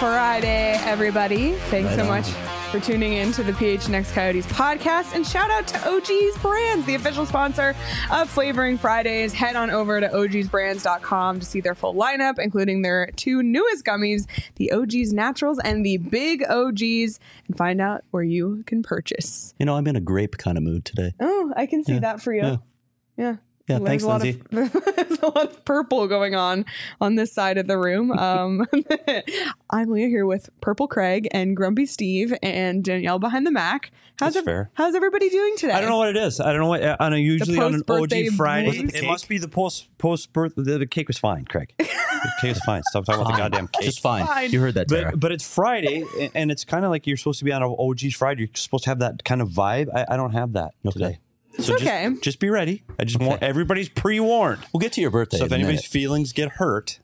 Friday, everybody. Thanks so much for tuning in to the PHNX Coyotes podcast. And shout out to OG's Brands, the official sponsor of Flavoring Fridays. Head on over to ogsbrands.com to see their full lineup, including their two newest gummies, the OG's Naturals and the Big OGs, and find out where you can purchase. You know, I'm in a grape kind of mood today. Oh, I can see that for you. Yeah. Yeah, thanks, Lindsay. There's a lot of purple going on this side of the room. I'm Leah here with Purple Craig and Grumpy Steve and Danielle behind the Mac. How's everybody doing today? I don't know what it is. I don't know what usually on an OG Friday. It must be the post birth. The cake was fine, Craig. The cake was fine. Stop talking about the goddamn cake. Just fine. You heard that, Tara. But it's Friday, and it's kind of like you're supposed to be on an OG's Friday. You're supposed to have that kind of vibe. I don't have that today. So okay. Just be ready. I just want everybody's pre-warned. We'll get to your birthday. So if anybody's feelings get hurt,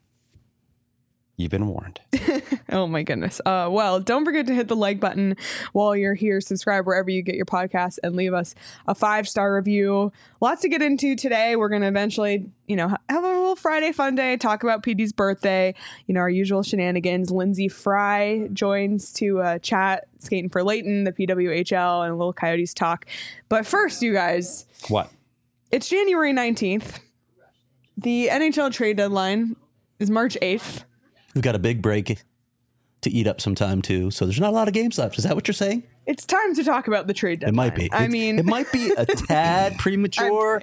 you've been warned. Oh my goodness. Well, don't forget to hit the like button while you're here. Subscribe wherever you get your podcasts and leave us a 5-star review. Lots to get into today. We're going to eventually, have a little Friday fun day, talk about PD's birthday, our usual shenanigans. Lindsay Fry joins to chat, skating for Leighton, the PWHL, and a little Coyotes talk. But first, you guys. What? It's January 19th. The NHL trade deadline is March 8th. We've got a big break to eat up some time, too. So there's not a lot of games left. Is that what you're saying? It's time to talk about the trade deadline. It might be. It might be a tad premature,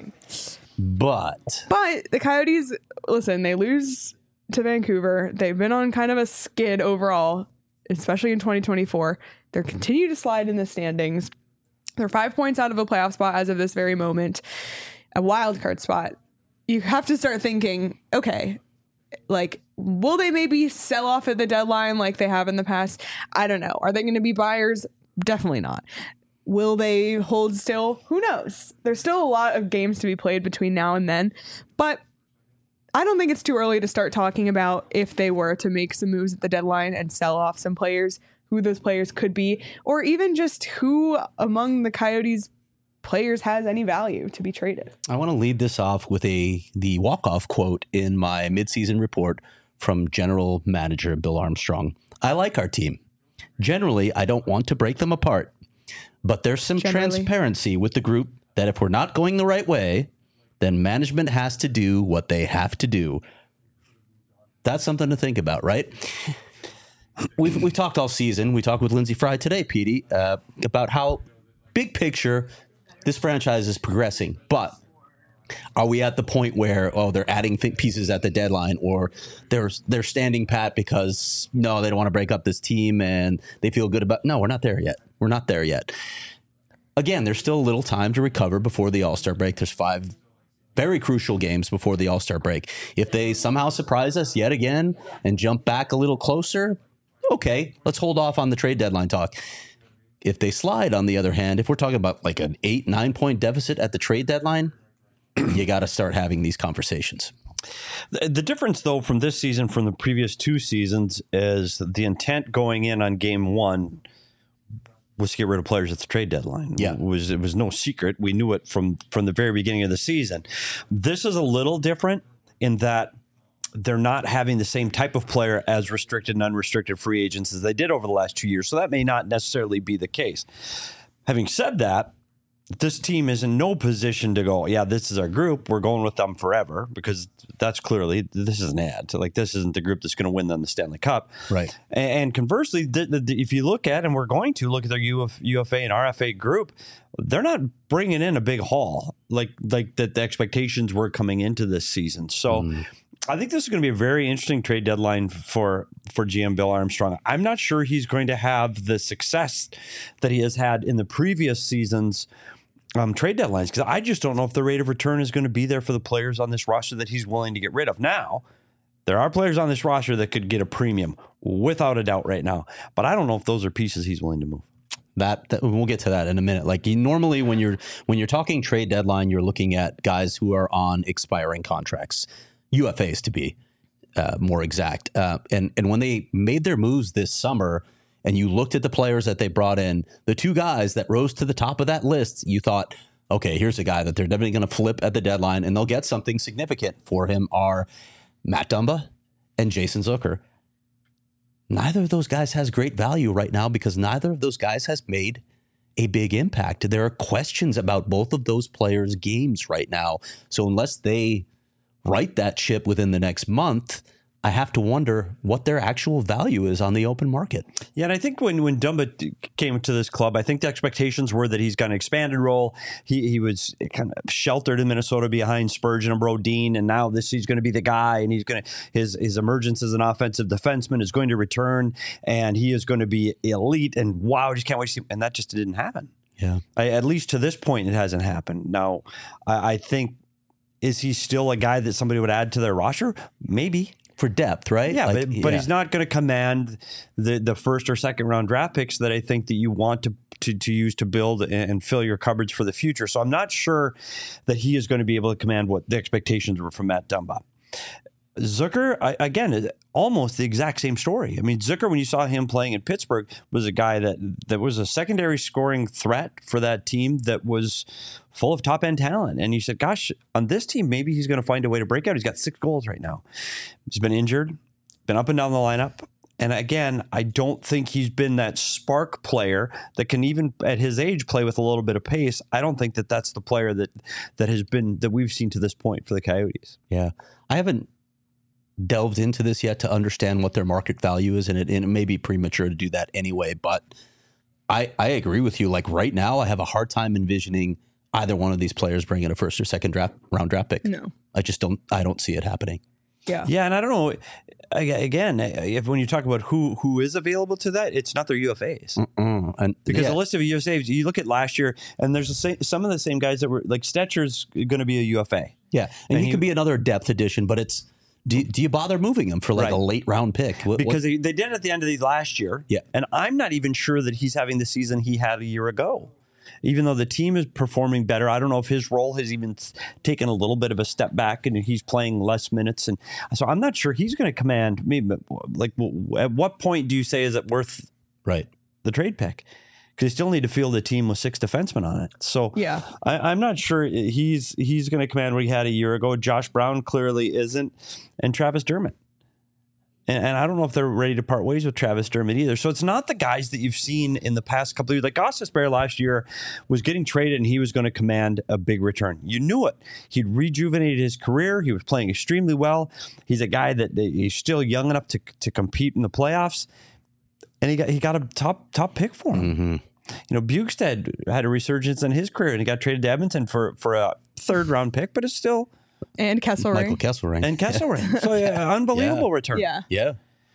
but the Coyotes, listen, they lose to Vancouver. They've been on kind of a skid overall, especially in 2024. They continue to slide in the standings. They're 5 points out of a playoff spot as of this very moment, a wild card spot. You have to start thinking, okay, will they maybe sell off at the deadline like they have in the past? I don't know. Are they going to be buyers? Definitely not. Will they hold still? Who knows? There's still a lot of games to be played between now and then. But I don't think it's too early to start talking about if they were to make some moves at the deadline and sell off some players, who those players could be, or even just who among the Coyotes players has any value to be traded. I want to lead this off with the walk-off quote in my midseason report from General Manager Bill Armstrong. I like our team. Generally, I don't want to break them apart, but there's some transparency with the group that if we're not going the right way, then management has to do what they have to do. That's something to think about, right? We've talked all season. We talked with Lindsay Fry today, Petey, about how big picture this franchise is progressing, but are we at the point where, they're adding pieces at the deadline, or they're standing pat because, no, they don't want to break up this team and they feel good about... No, we're not there yet. We're not there yet. Again, there's still a little time to recover before the All-Star break. There's 5 very crucial games before the All-Star break. If they somehow surprise us yet again and jump back a little closer, okay, let's hold off on the trade deadline talk. If they slide, on the other hand, if we're talking about like an 8-9 point deficit at the trade deadline, you got to start having these conversations. The difference, though, from this season from the previous 2 seasons is the intent going in on game 1 was to get rid of players at the trade deadline. Yeah. It was no secret. We knew it from the very beginning of the season. This is a little different in that they're not having the same type of player as restricted and unrestricted free agents as they did over the last 2 years. So that may not necessarily be the case. Having said that, this team is in no position to go, yeah, this is our group. We're going with them forever, because that's clearly, this is an ad. So this isn't the group that's going to win them the Stanley Cup. Right. And conversely, if you look at, and we're going to look at their UFA and RFA group, they're not bringing in a big haul like the expectations were coming into this season. So I think this is going to be a very interesting trade deadline for GM Bill Armstrong. I'm not sure he's going to have the success that he has had in the previous seasons trade deadlines, because I just don't know if the rate of return is going to be there for the players on this roster that he's willing to get rid of. Now, there are players on this roster that could get a premium without a doubt right now, but I don't know if those are pieces he's willing to move. That we'll get to that in a minute. Like, normally when you're talking trade deadline, you're looking at guys who are on expiring contracts, UFAs to be more exact. And when they made their moves this summer, and you looked at the players that they brought in, the 2 guys that rose to the top of that list, you thought, okay, here's a guy that they're definitely going to flip at the deadline and they'll get something significant for him, are Matt Dumba and Jason Zucker. neither of those guys has great value right now because neither of those guys has made a big impact. There are questions about both of those players' games right now. So unless they right that ship within the next month, I have to wonder what their actual value is on the open market. Yeah, and I think when Dumba came to this club, I think the expectations were that he's got an expanded role. He was kind of sheltered in Minnesota behind Spurgeon and Brodin, and now he's going to be the guy, and his emergence as an offensive defenseman is going to return, and he is going to be elite. And wow, I just can't wait to see. And that just didn't happen. Yeah, at least to this point, it hasn't happened. Now, I think, is he still a guy that somebody would add to their roster? Maybe. For depth, right? Yeah, but he's not going to command the first or second round draft picks that I think that you want to use to build and fill your cupboards for the future. So I'm not sure that he is going to be able to command what the expectations were from Matt Dumba. Zucker, again, almost the exact same story. I mean, Zucker, when you saw him playing in Pittsburgh, was a guy that was a secondary scoring threat for that team that was full of top-end talent. And you said, gosh, on this team, maybe he's going to find a way to break out. He's got 6 goals right now. He's been injured, been up and down the lineup. And again, I don't think he's been that spark player that can even at his age play with a little bit of pace. I don't think that that's the player that we've seen to this point for the Coyotes. Yeah. I haven't delved into this yet to understand what their market value is, and it may be premature to do that anyway, but I agree with you. Like right now, I have a hard time envisioning either one of these players bringing a first or second round draft pick. No. I don't see it happening. Yeah, and I don't know. Again, when you talk about who is available to that, it's not their UFAs. Because the list of UFAs, you look at last year, and there's some of the same guys that were like Stetcher's going to be a UFA. Yeah, and he could be another depth addition, but it's. Do you bother moving him for like a late round pick? Because they did it at the end of these last year. Yeah. And I'm not even sure that he's having the season he had a year ago. Even though the team is performing better, I don't know if his role has even taken a little bit of a step back and he's playing less minutes. And so I'm not sure he's going to command maybe like at what point do you say is it worth the trade pick? Because you still need to field a team with 6 defensemen on it. So yeah, I'm not sure he's going to command what he had a year ago. Josh Brown clearly isn't, and Travis Dermott. And I don't know if they're ready to part ways with Travis Dermott either. So it's not the guys that you've seen in the past couple of years. Like Gostisbehere last year was getting traded and he was going to command a big return. You knew it. He'd rejuvenated his career. He was playing extremely well. He's a guy that he's still young enough to compete in the playoffs. And he got a top pick for him. Mm-hmm. You know, Bukestad had a resurgence in his career and he got traded to Edmonton for a 3rd round pick, but it's still. And Kesselring. Michael Kesselring. And Kesselring. So unbelievable return. Yeah.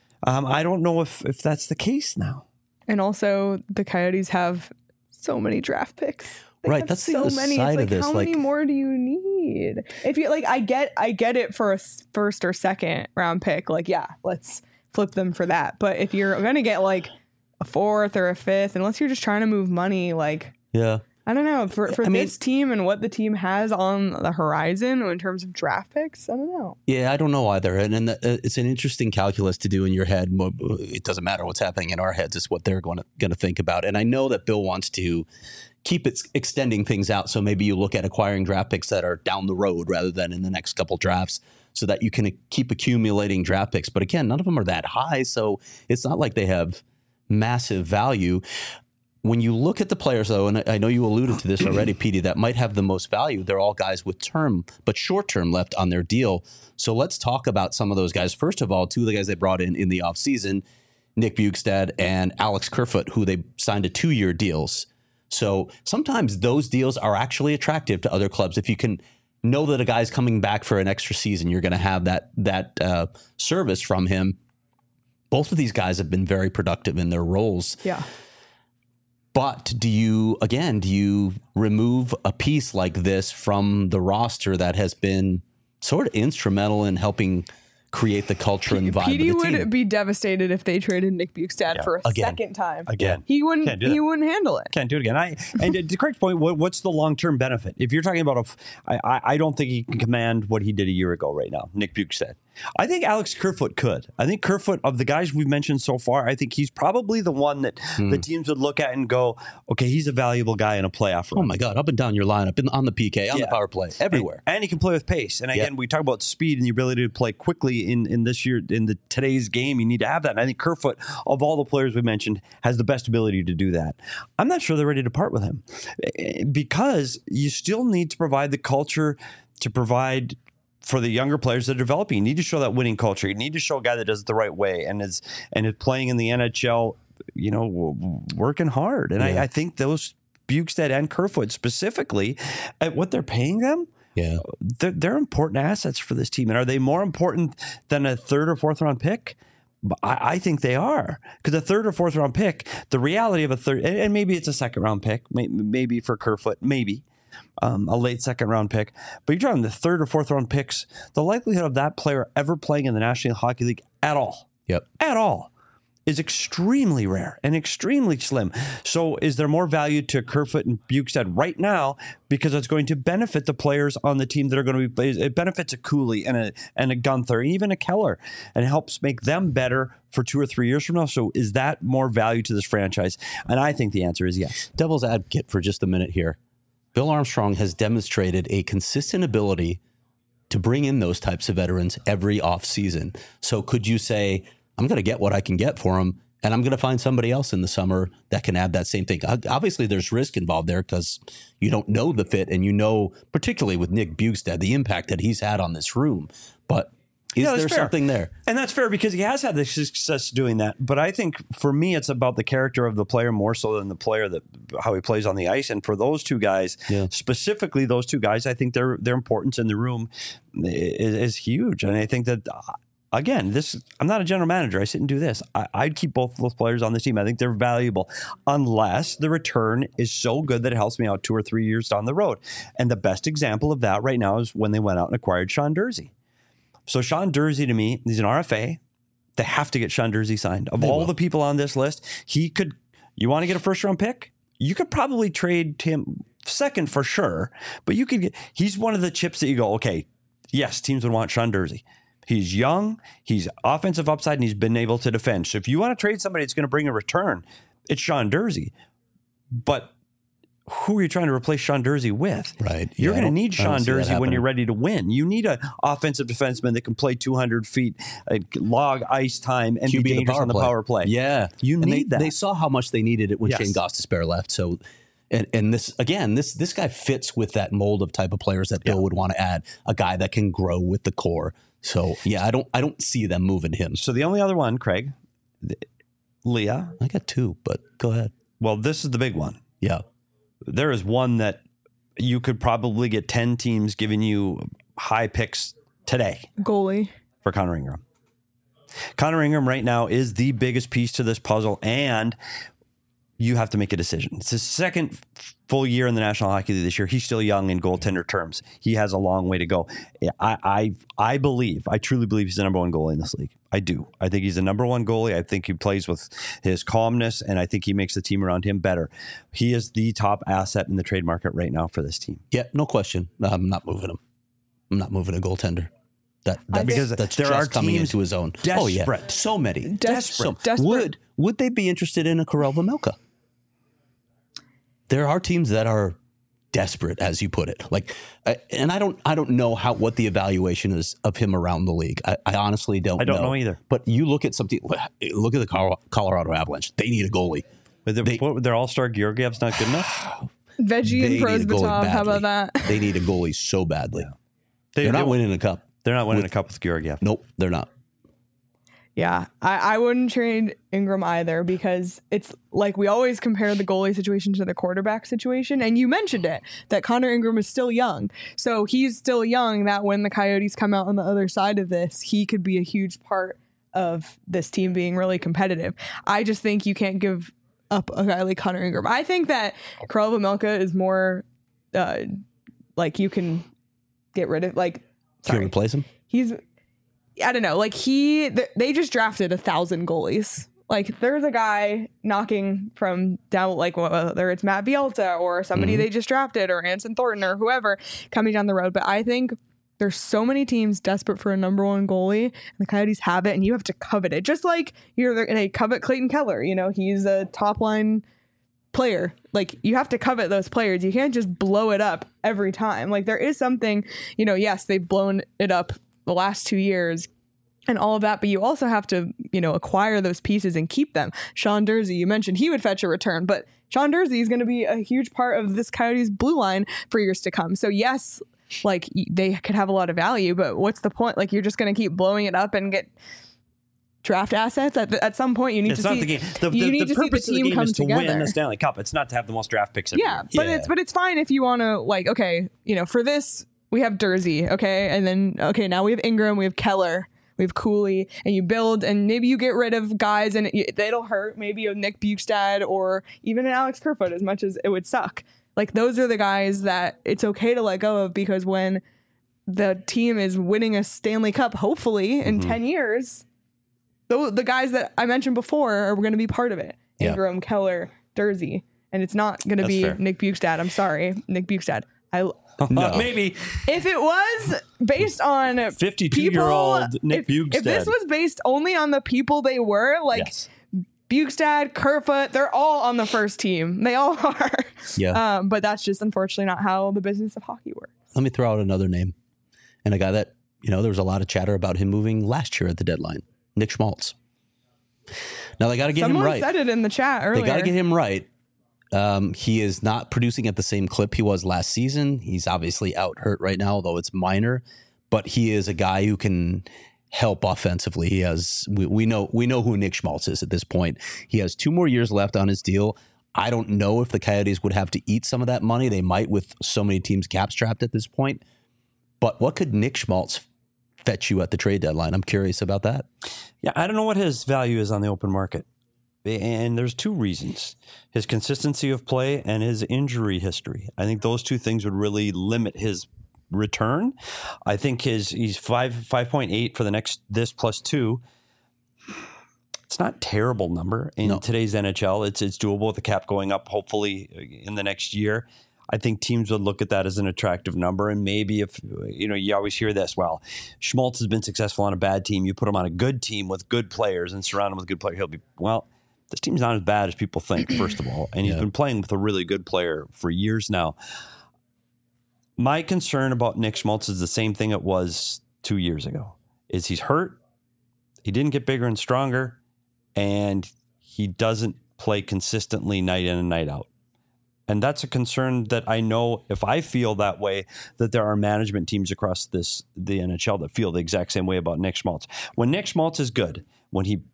I don't know if that's the case now. And also the Coyotes have so many draft picks. Right, that's so many. Side it's of this. How many more do you need? If you like, I get it for a first or second round pick. Like, yeah, let's flip them for that. But if you're gonna get like a 4th or a 5th, unless you're just trying to move money, like I don't know for this team and what the team has on the horizon in terms of draft picks. I don't know. Yeah, I don't know either, and it's an interesting calculus to do in your head. It doesn't matter what's happening in our heads; it's what they're going to think about. And I know that Bill wants to keep extending things out, so maybe you look at acquiring draft picks that are down the road rather than in the next couple drafts, so that you can keep accumulating draft picks. But again, none of them are that high, so it's not like they have massive value. When you look at the players, though, and I know you alluded to this already, Petey, that might have the most value, they're all guys with short-term left on their deal. So let's talk about some of those guys. First of all, 2 of the guys they brought in the offseason, Nick Bukestad and Alex Kerfoot, who they signed to 2-year deals. So sometimes those deals are actually attractive to other clubs. If you can know that a guy's coming back for an extra season, you're going to have that service from him. Both of these guys have been very productive in their roles. Yeah. But do you remove a piece like this from the roster that has been sort of instrumental in helping create the culture and vibe Petey of the team? would be devastated if they traded Nick Bukestad for a second time. Again. He wouldn't handle it. Can't do it again. And to Craig's point, what's the long-term benefit? If you're talking about I don't think he can command what he did a year ago right now, Nick Bukestad. I think Alex Kerfoot could. I think Kerfoot, of the guys we've mentioned so far, I think he's probably the one that the teams would look at and go, okay, he's a valuable guy in a playoff run. Oh my God, up and down your lineup, on the PK, on the power play, everywhere. And he can play with pace. And again, we talk about speed and the ability to play quickly in this year, in today's game. You need to have that. And I think Kerfoot, of all the players we mentioned, has the best ability to do that. I'm not sure they're ready to part with him because you still need to provide the culture to provide for the younger players that are developing. You need to show that winning culture. You need to show a guy that does it the right way and is playing in the NHL, working hard. And I think those Bjugstad and Kerfoot specifically, at what they're paying them, they're important assets for this team. And are they more important than a third or fourth round pick? I think they are, because a third or fourth round pick, the reality of a third, and maybe it's a second round pick, maybe for Kerfoot, maybe. A late second round pick, but you're talking the third or fourth round picks. The likelihood of that player ever playing in the National Hockey League at all, is extremely rare and extremely slim. So, is there more value to Kerfoot and Bjugstad right now because it's going to benefit the players on the team that are going to be? It benefits a Cooley and a Gunther, and even a Keller, and helps make them better for 2 or 3 years from now. So, is that more value to this franchise? And I think the answer is yes. Devil's advocate for just a minute here. Bill Armstrong has demonstrated a consistent ability to bring in those types of veterans every offseason. So could you say, I'm going to get what I can get for him, and I'm going to find somebody else in the summer that can add that same thing? Obviously, there's risk involved there because you don't know the fit, and particularly with Nick Bjugstad, the impact that he's had on this room. But is there something there? And that's fair because he has had the success doing that. But I think for me, it's about the character of the player more so than the player, how he plays on the ice. And for those two guys, specifically those two guys, I think their importance in the room is huge. And I think that, again, I'm not a general manager. I sit and do this. I'd keep both of those players on the team. I think they're valuable unless the return is so good that it helps me out 2 or 3 years down the road. And the best example of that right now is when they went out and acquired Sean Durzi. So Sean Durzi, to me, he's an RFA. They have to get Sean Durzi signed. Of all the people on this list, you want to get a first round pick? You could probably trade him second for sure, but he's one of the chips that you go, okay, yes, teams would want Sean Durzi. He's young, he's offensive upside, and he's been able to defend. So if you want to trade somebody that's going to bring a return, it's Sean Durzi. But who are you trying to replace Sean Durzi with? Right. You're going to need Sean Durzi when you're ready to win. You need an offensive defenseman that can play 200 feet, log ice time, and be dangerous on the power play. Yeah. You need that. They saw how much they needed it when Shane Gostisbehere left. So, and this guy fits with that mold of type of players that Bill would want to add, a guy that can grow with the core. So, I don't see them moving him. So the only other one, Craig, Leah. I got 2, but go ahead. Well, this is the big one. Yeah. There is one that you could probably get 10 teams giving you high picks today. Goalie. For Connor Ingram. Connor Ingram right now is the biggest piece to this puzzle, and you have to make a decision. It's his second full year in the National Hockey League this year. He's still young in goaltender terms. He has a long way to go. I truly believe he's the number one goalie in this league. I do. I think he's the number one goalie. I think he plays with his calmness, and I think he makes the team around him better. He is the top asset in the trade market right now for this team. Yeah, no question. I'm not moving him. I'm not moving a goaltender. Because there are coming into his own. Desperate. Oh yeah, so many. Desperate. Would they be interested in a Karel Vejmelka? There are teams that are desperate, as you put it. And I don't know what the evaluation is of him around the league. I honestly don't. I don't know either. But you look at something. Look at the Colorado Avalanche. They need a goalie. Their all-star Georgiev's not good enough. Veggie and Prosvetov. How about that? They need a goalie so badly. They're not winning a cup. They're not winning a cup with Georgiev. Nope, they're not. Yeah, I wouldn't trade Ingram either because it's like we always compare the goalie situation to the quarterback situation. And you mentioned it, that Connor Ingram is still young. So he's still young that when the Coyotes come out on the other side of this, he could be a huge part of this team being really competitive. I just think you can't give up a guy like Connor Ingram. I think that Karel Vejmelka is more you can get rid of Can you replace him? I don't know. They just drafted 1,000 goalies. There's a guy knocking from down, whether it's Matt Bielta or somebody they just drafted or Anson Thornton or whoever coming down the road. But I think There's so many teams desperate for a number one goalie, and the Coyotes have it, and you have to covet it. Just like they covet Clayton Keller. You know, he's a top line player. Like, you have to covet those players. You can't just blow it up every time. Like, there is something, you know, yes, they've blown it up the last 2 years and all of that, but you also have to, you know, acquire those pieces and keep them. Sean Durzi, you mentioned he would fetch a return, but Sean Durzi is going to be a huge part of this Coyotes blue line for years to come. So yes, like, they could have a lot of value, but what's the point? Like, you're just going to keep blowing it up and get draft assets at some point. You need to see the game. The purpose of the game is to win the Stanley Cup. It's not to have the most draft picks every year. But it's fine if you want to, like, okay, you know, for this we have Durzi, okay, and then okay, now we have Ingram, we have Keller, we have Cooley, and you build, and maybe you get rid of guys, and it'll hurt. Maybe a Nick Bukestad or even an Alex Kerfoot, as much as it would suck. Like, those are the guys that it's okay to let go of, because when the team is winning a Stanley Cup, hopefully in 10 years, the guys that I mentioned before are going to be part of it. Ingram, Keller, Durzi. And it's not going to be fair. Nick Bukestad. I'm sorry, Nick Bukestad. Maybe if it was based on 52-year-old Nick Bukestad. If this was based only on the people they were, like, yes. Bukestad, Kerfoot, they're all on the first team. They all are. Yeah. But that's just unfortunately not how the business of hockey works. Let me throw out another name, and a guy that, you know, there was a lot of chatter about him moving last year at the deadline. Nick Schmaltz. Now they got to get him right. Someone said it in the chat earlier. They got to get him right. He is not producing at the same clip he was last season. He's obviously out hurt right now, although it's minor. But he is a guy who can help offensively. He has. We know who Nick Schmaltz is at this point. He has 2 more years left on his deal. I don't know if the Coyotes would have to eat some of that money. They might, with so many teams cap strapped at this point. But what could Nick Schmaltz fetch you at the trade deadline? I'm curious about that. Yeah, I don't know what his value is on the open market. And there's 2 reasons: his consistency of play and his injury history. I think those 2 things would really limit his return. I think he's 5.8 for the next this plus 2. It's not a terrible number in today's NHL. It's doable with the cap going up, hopefully, in the next year. I think teams would look at that as an attractive number. And maybe if, you know, you always hear this, well, Schmaltz has been successful on a bad team. You put him on a good team with good players and surround him with good players. He'll be, well, this team's not as bad as people think, first of all. And he's been playing with a really good player for years now. My concern about Nick Schmaltz is the same thing it was 2 years ago, is he's hurt. He didn't get bigger and stronger, and he doesn't play consistently night in and night out. And that's a concern that I know, if I feel that way, that there are management teams across the NHL that feel the exact same way about Nick Schmaltz. When Nick Schmaltz is good, when he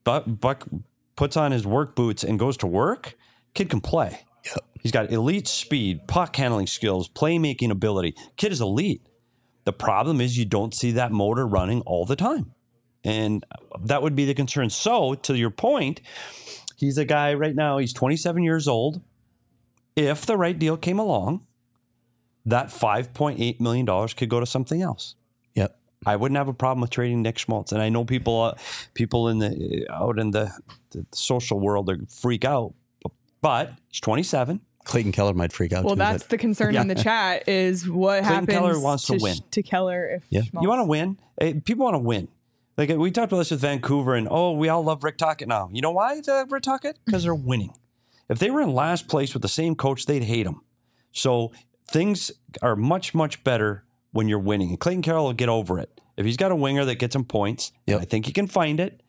puts on his work boots and goes to work, kid can play. Yep. He's got elite speed, puck handling skills, playmaking ability. Kid is elite. The problem is you don't see that motor running all the time. And that would be the concern. So, to your point, he's a guy right now, he's 27 years old. If the right deal came along, that $5.8 million could go to something else. Yep. I wouldn't have a problem with trading Nick Schmaltz. And I know people in the social world freak out, but he's 27. Clayton Keller might freak out. Well, that's the concern in the chat, is what Clayton happens Keller wants to win. To Keller. If Schmaltz. You want to win. People want to win. Like, we talked about this with Vancouver, and we all love Rick Tocchet now. You know why Rick Tocchet? Because they're winning. If they were in last place with the same coach, they'd hate him. So things are much, much better when you're winning. And Clayton Keller will get over it. If he's got a winger that gets him points, and I think he can find it,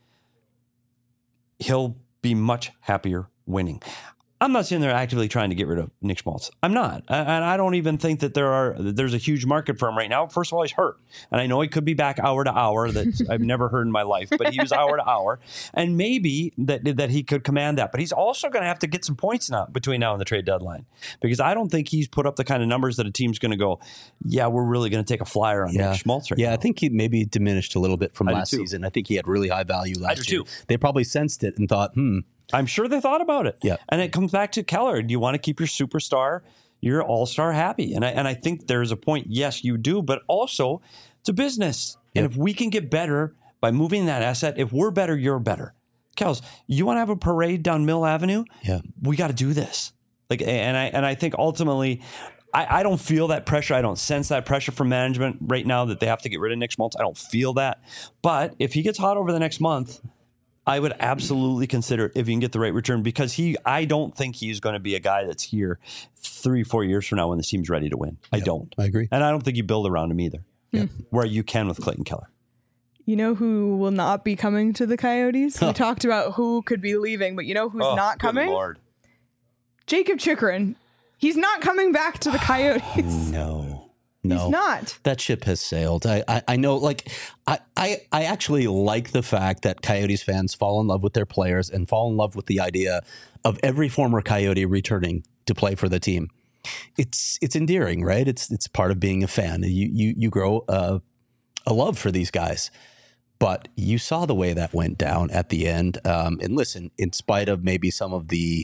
he'll be much happier winning. I'm not sitting there actively trying to get rid of Nick Schmaltz. I'm not. And I don't even think that there's a huge market for him right now. First of all, he's hurt. And I know he could be back hour to hour. That I've never heard in my life. But he was hour to hour. And maybe that he could command that. But he's also going to have to get some points now between now and the trade deadline. Because I don't think he's put up the kind of numbers that a team's going to go, yeah, we're really going to take a flyer on Nick Schmaltz right now. Yeah, I think he maybe diminished a little bit from last season. I think he had really high value last year. They probably sensed it and thought, I'm sure they thought about it. Yeah. And it comes back to Keller. Do you want to keep your superstar, your all-star happy? And I think there's a point, yes, you do, but also it's a business. Yep. And if we can get better by moving that asset, if we're better, you're better. Kels, you want to have a parade down Mill Avenue? Yeah. We got to do this. And I think ultimately I don't feel that pressure. I don't sense that pressure from management right now that they have to get rid of Nick Schmaltz. I don't feel that. But if he gets hot over the next month, I would absolutely consider if you can get the right return, because I don't think he's going to be a guy that's here 3-4 years from now when the team's ready to win. I don't. I agree. And I don't think you build around him either, where you can with Clayton Keller. You know who will not be coming to the Coyotes? We talked about who could be leaving, but you know who's not coming? Good Lord. Jacob Chychrun. He's not coming back to the Coyotes. No. He's not. That ship has sailed. I know, like, I actually like the fact that Coyotes fans fall in love with their players and fall in love with the idea of every former Coyote returning to play for the team. It's endearing, right? It's part of being a fan. You grow a love for these guys. But you saw the way that went down at the end. And listen, in spite of maybe some of the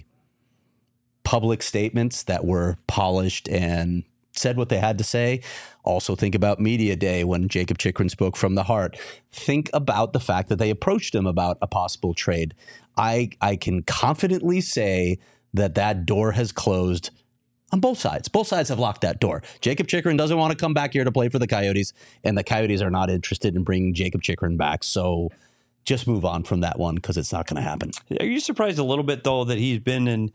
public statements that were polished and said what they had to say, also think about Media Day when Jacob Chychrun spoke from the heart. Think about the fact that they approached him about a possible trade. I can confidently say that door has closed on both sides. Both sides have locked that door. Jacob Chychrun doesn't want to come back here to play for the Coyotes, and the Coyotes are not interested in bringing Jacob Chychrun back. So just move on from that one, because it's not going to happen. Are you surprised a little bit, though, that he's been in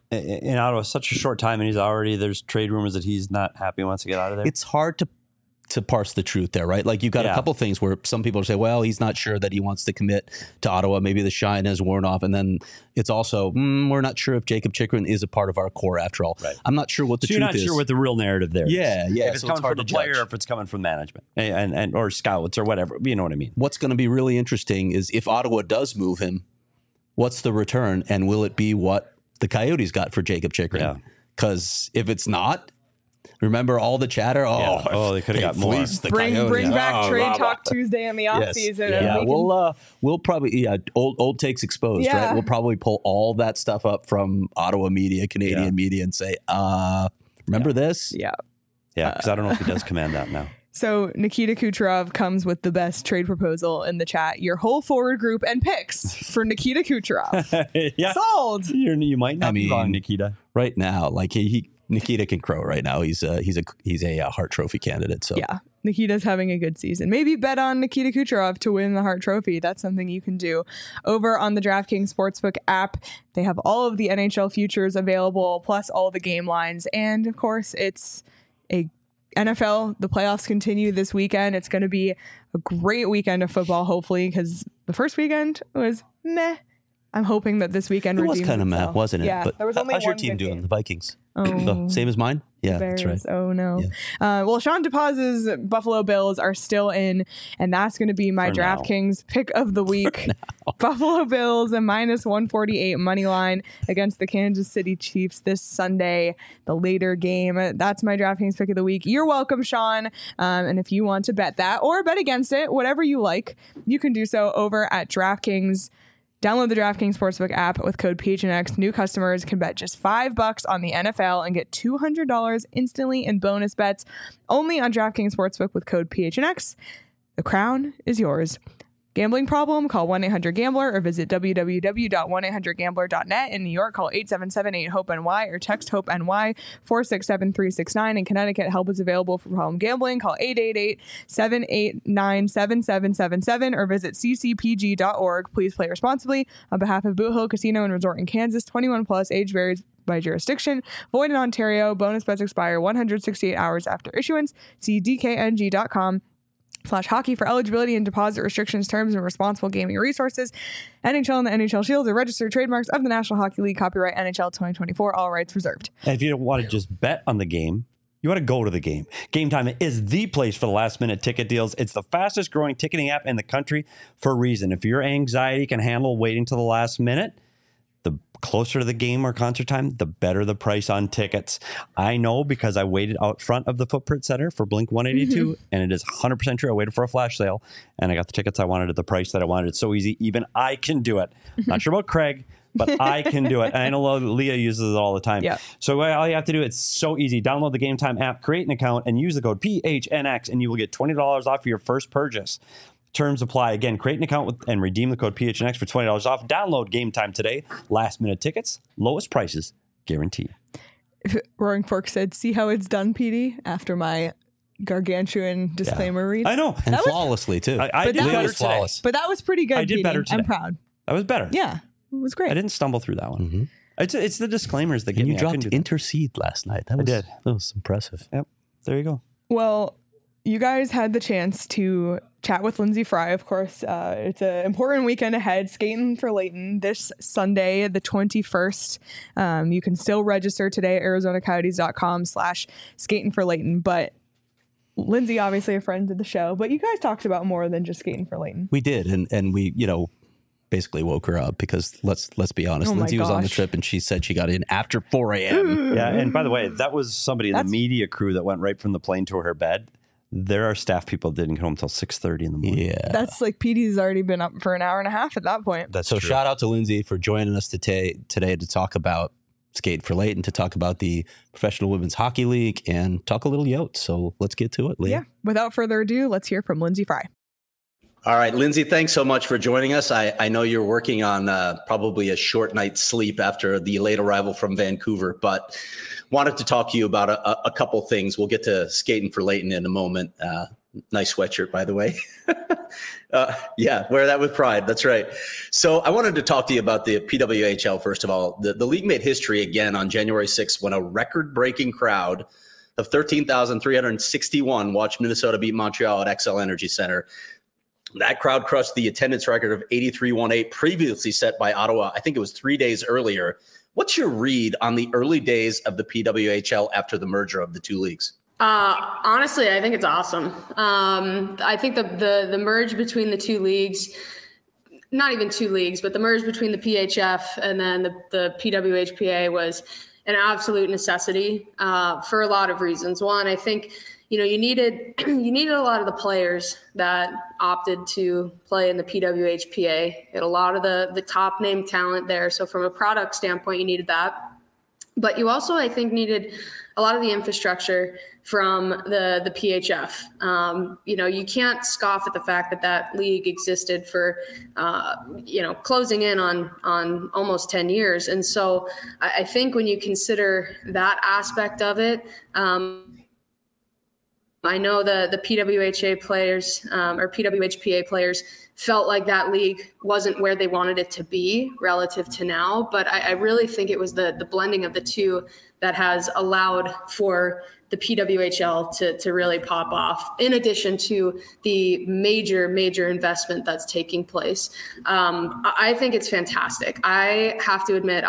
Ottawa such a short time, and there's trade rumors that he's not happy and wants to get out of there? It's hard to parse the truth there, right? Like, you've got a couple things where some people say, well, he's not sure that he wants to commit to Ottawa. Maybe the shine has worn off. And then it's also, we're not sure if Jacob Chychrun is a part of our core after all. Right. I'm not sure what the truth is. You're not sure what the real narrative there is. Yeah. If it's so coming hard from the to player judge. or if it's coming from management and or scouts or whatever. You know what I mean? What's going to be really interesting is if Ottawa does move him, what's the return? And will it be what the Coyotes got for Jacob Chychrun? Because if it's not, remember all the chatter? They could have got more. Bring back Trade Talk Tuesday in the offseason. Yes. We'll probably old takes exposed, right? We'll probably pull all that stuff up from Ottawa media, Canadian media, and say, remember this? Yeah. Yeah, because I don't know if he does command that now. So Nikita Kucherov comes with the best trade proposal in the chat. Your whole forward group and picks for Nikita Kucherov. Sold. You might not be wrong, Nikita. Right now, like Nikita can crow right now. He's a Hart Trophy candidate. So yeah, Nikita's having a good season. Maybe bet on Nikita Kucherov to win the Hart Trophy. That's something you can do over on the DraftKings Sportsbook app. They have all of the NHL futures available, plus all the game lines. And of course, it's a NFL. The playoffs continue this weekend. It's going to be a great weekend of football, hopefully, because the first weekend was meh. I'm hoping that this weekend was kind of meh, wasn't it? Yeah, but there was only how's your one team good doing? game. The Vikings. Oh, Same as mine? Yeah, Bears. that's right. Oh, no. Yeah. Well, Sean DePaz's Buffalo Bills are still in, and that's going to be my DraftKings pick of the week. Buffalo Bills, a minus 148 money line against the Kansas City Chiefs this Sunday, the later game. That's my DraftKings pick of the week. You're welcome, Sean. And if you want to bet that or bet against it, whatever you like, you can do so over at DraftKings. Download the DraftKings Sportsbook app with code PHNX. New customers can bet just $5 on the NFL and get $200 instantly in bonus bets only on DraftKings Sportsbook with code PHNX. The crown is yours. Gambling problem? Call 1-800-GAMBLER or visit www.1800gambler.net. In New York, call 877-8-HOPE-NY or text HOPE-NY 467-369. In Connecticut, help is available for problem gambling. Call 888-789-7777 or visit ccpg.org. Please play responsibly. On behalf of Boot Hill Casino and Resort in Kansas, 21 plus, age varies by jurisdiction. Void in Ontario. Bonus bets expire 168 hours after issuance. See dkng.com/hockey for eligibility and deposit restrictions, terms, and responsible gaming resources. NHL and the NHL Shield are registered trademarks of the National Hockey League. Copyright NHL 2024. All rights reserved. And if you don't want to just bet on the game, you want to go to the game. Game Time is the place for the last-minute ticket deals. It's the fastest-growing ticketing app in the country for a reason. If your anxiety can handle waiting till the last minute, the closer to the game or concert time, the better the price on tickets. I know because I waited out front of the Footprint Center for Blink 182, and it is 100% true. I waited for a flash sale, and I got the tickets I wanted at the price that I wanted. It's so easy. Even I can do it. Not sure about Craig, but I can do it. And I know Leah uses it all the time. Yeah. So all you have to do, it's so easy. Download the Game Time app, create an account, and use the code PHNX, and you will get $20 off your first purchase. Terms apply. Again, create an account and redeem the code PHNX for $20 off. Download Game Time today. Last minute tickets, lowest prices, guaranteed. Roaring Fork said, "See how it's done, PD?" After my gargantuan disclaimer read. I know. And flawlessly, too. I did that better was today. flawless. But that was pretty good. I did PD. better today. I'm proud. That was better. Yeah, it was great. I didn't stumble through that one. Mm-hmm. It's the disclaimers that get And you me. I couldn't dropped do that. Intercede last night. That was impressive. Yep. There you go. Well, you guys had the chance to chat with Lindsey Fry, of course. It's an important weekend ahead, skating for Layton this Sunday, the 21st. You can still register today at arizonacoyotes.com/skating for Layton. But Lindsey, obviously a friend of the show, but you guys talked about more than just skating for Layton. We did. And we, basically woke her up because let's be honest. Oh my Lindsay was on the gosh. trip and she said she got in after 4 a.m. Yeah. And by the way, that was somebody in the That's- media crew that went right from the plane to her bed. There are staff people that didn't get home until 6:30 in the morning. Yeah. That's like PD's already been up for an hour and a half at that point. That's So true. shout out to Lindsay for joining us today to talk about Skate for Layton, to talk about the Professional Women's Hockey League, and talk a little Yotes. So let's get to it, Leah. Yeah. Without further ado, let's hear from Lindsey Fry. All right, Lindsay, thanks so much for joining us. I know you're working on probably a short night's sleep after the late arrival from Vancouver, but wanted to talk to you about a couple things. We'll get to skating for Layton in a moment. Nice sweatshirt, by the way. Yeah, wear that with pride. That's right. So I wanted to talk to you about the PWHL, first of all. The league made history again on January 6th when a record-breaking crowd of 13,361 watched Minnesota beat Montreal at XL Energy Center. That crowd crushed the attendance record of 83.18 previously set by Ottawa. I think it was 3 days earlier. What's your read on the early days of the PWHL after the merger of the two leagues? Honestly, I think it's awesome. I think the merge between the two leagues, not even two leagues, but the merge between the PHF and then the PWHPA was an absolute necessity for a lot of reasons. One, I think you needed a lot of the players that opted to play in the PWHPA. You had a lot of the top name talent there. So from a product standpoint, you needed that. But you also, I think, needed a lot of the infrastructure from the PHF. You can't scoff at the fact that league existed for, closing in on almost 10 years. And so I think when you consider that aspect of it, I know the PWHA players or PWHPA players felt like that league wasn't where they wanted it to be relative to now. But I really think it was the blending of the two that has allowed for the PWHL to really pop off, in addition to the major investment that's taking place. I think it's fantastic. I have to admit,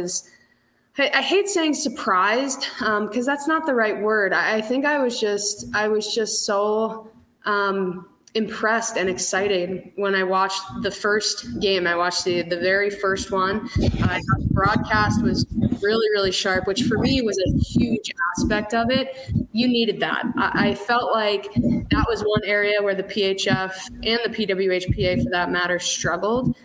I hate saying surprised because that's not the right word. I think I was just so impressed and excited when I watched the first game. I watched the very first one. I thought the broadcast was really sharp, which for me was a huge aspect of it. You needed that. I felt like that was one area where the PHF and the PWHPA, for that matter, struggled.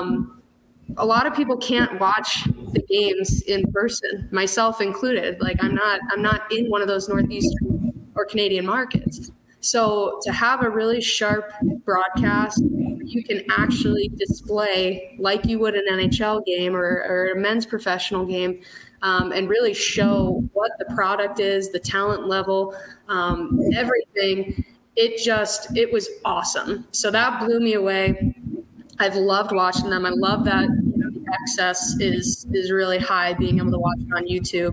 A lot of people can't watch the games in person, myself included. Like I'm not in one of those Northeastern or Canadian markets. So to have a really sharp broadcast, you can actually display like you would an NHL game or a men's professional game, and really show what the product is, the talent level, everything. It was awesome. So that blew me away. I've loved watching them. I love that the access is really high, being able to watch it on YouTube.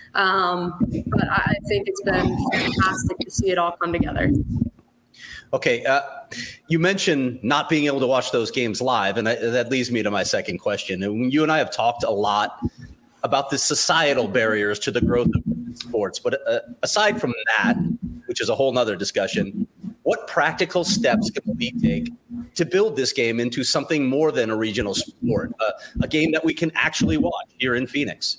But I think it's been fantastic to see it all come together. Okay, you mentioned not being able to watch those games live, and that leads me to my second question. And you and I have talked a lot about the societal barriers to the growth of sports. But aside from that, which is a whole nother discussion, what practical steps can we take to build this game into something more than a regional sport, a game that we can actually watch here in Phoenix?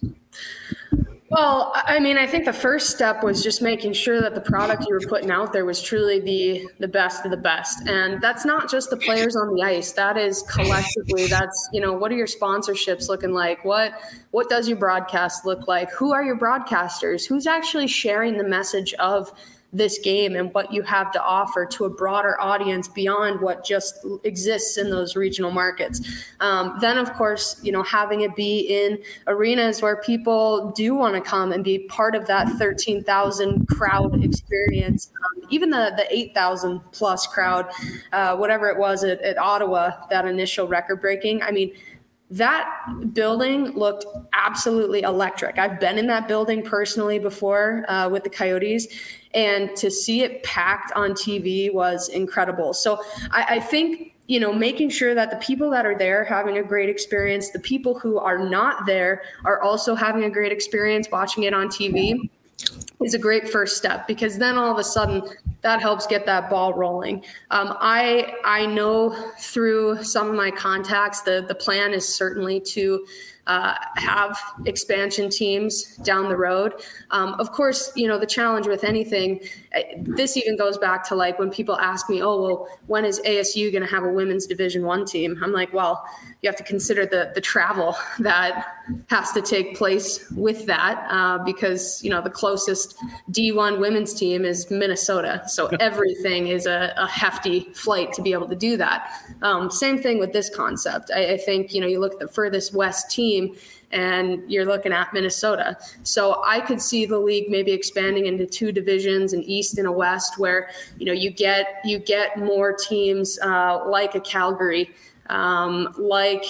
Well, I mean, I think the first step was just making sure that the product you were putting out there was truly the best of the best. And that's not just the players on the ice. That is collectively, that's, what are your sponsorships looking like? What does your broadcast look like? Who are your broadcasters? Who's actually sharing the message of this game and what you have to offer to a broader audience beyond what just exists in those regional markets. Then, of course, having it be in arenas where people do want to come and be part of that 13,000 crowd experience, even the 8,000 plus crowd, whatever it was at Ottawa, that initial record breaking. I mean, that building looked absolutely electric. I've been in that building personally before with the Coyotes, and to see it packed on TV was incredible. So I think, making sure that the people that are there having a great experience, the people who are not there are also having a great experience watching it on TV is a great first step, because then all of a sudden that helps get that ball rolling. I know through some of my contacts, the plan is certainly to have expansion teams down the road. Of course, the challenge with anything, this even goes back to like when people ask me, oh, well, when is ASU going to have a women's Division I team? I'm like, well, you have to consider the travel that has to take place with that, because, the closest D1 women's team is Minnesota. So everything is a hefty flight to be able to do that. Same thing with this concept. I think, you look at the furthest west team and you're looking at Minnesota. So I could see the league maybe expanding into 2 divisions, an East and a West, where, you get more teams like a Calgary, like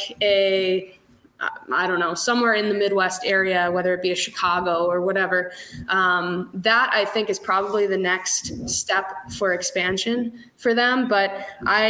I don't know, somewhere in the Midwest area, whether it be a Chicago or whatever. That I think is probably the next step for expansion for them. But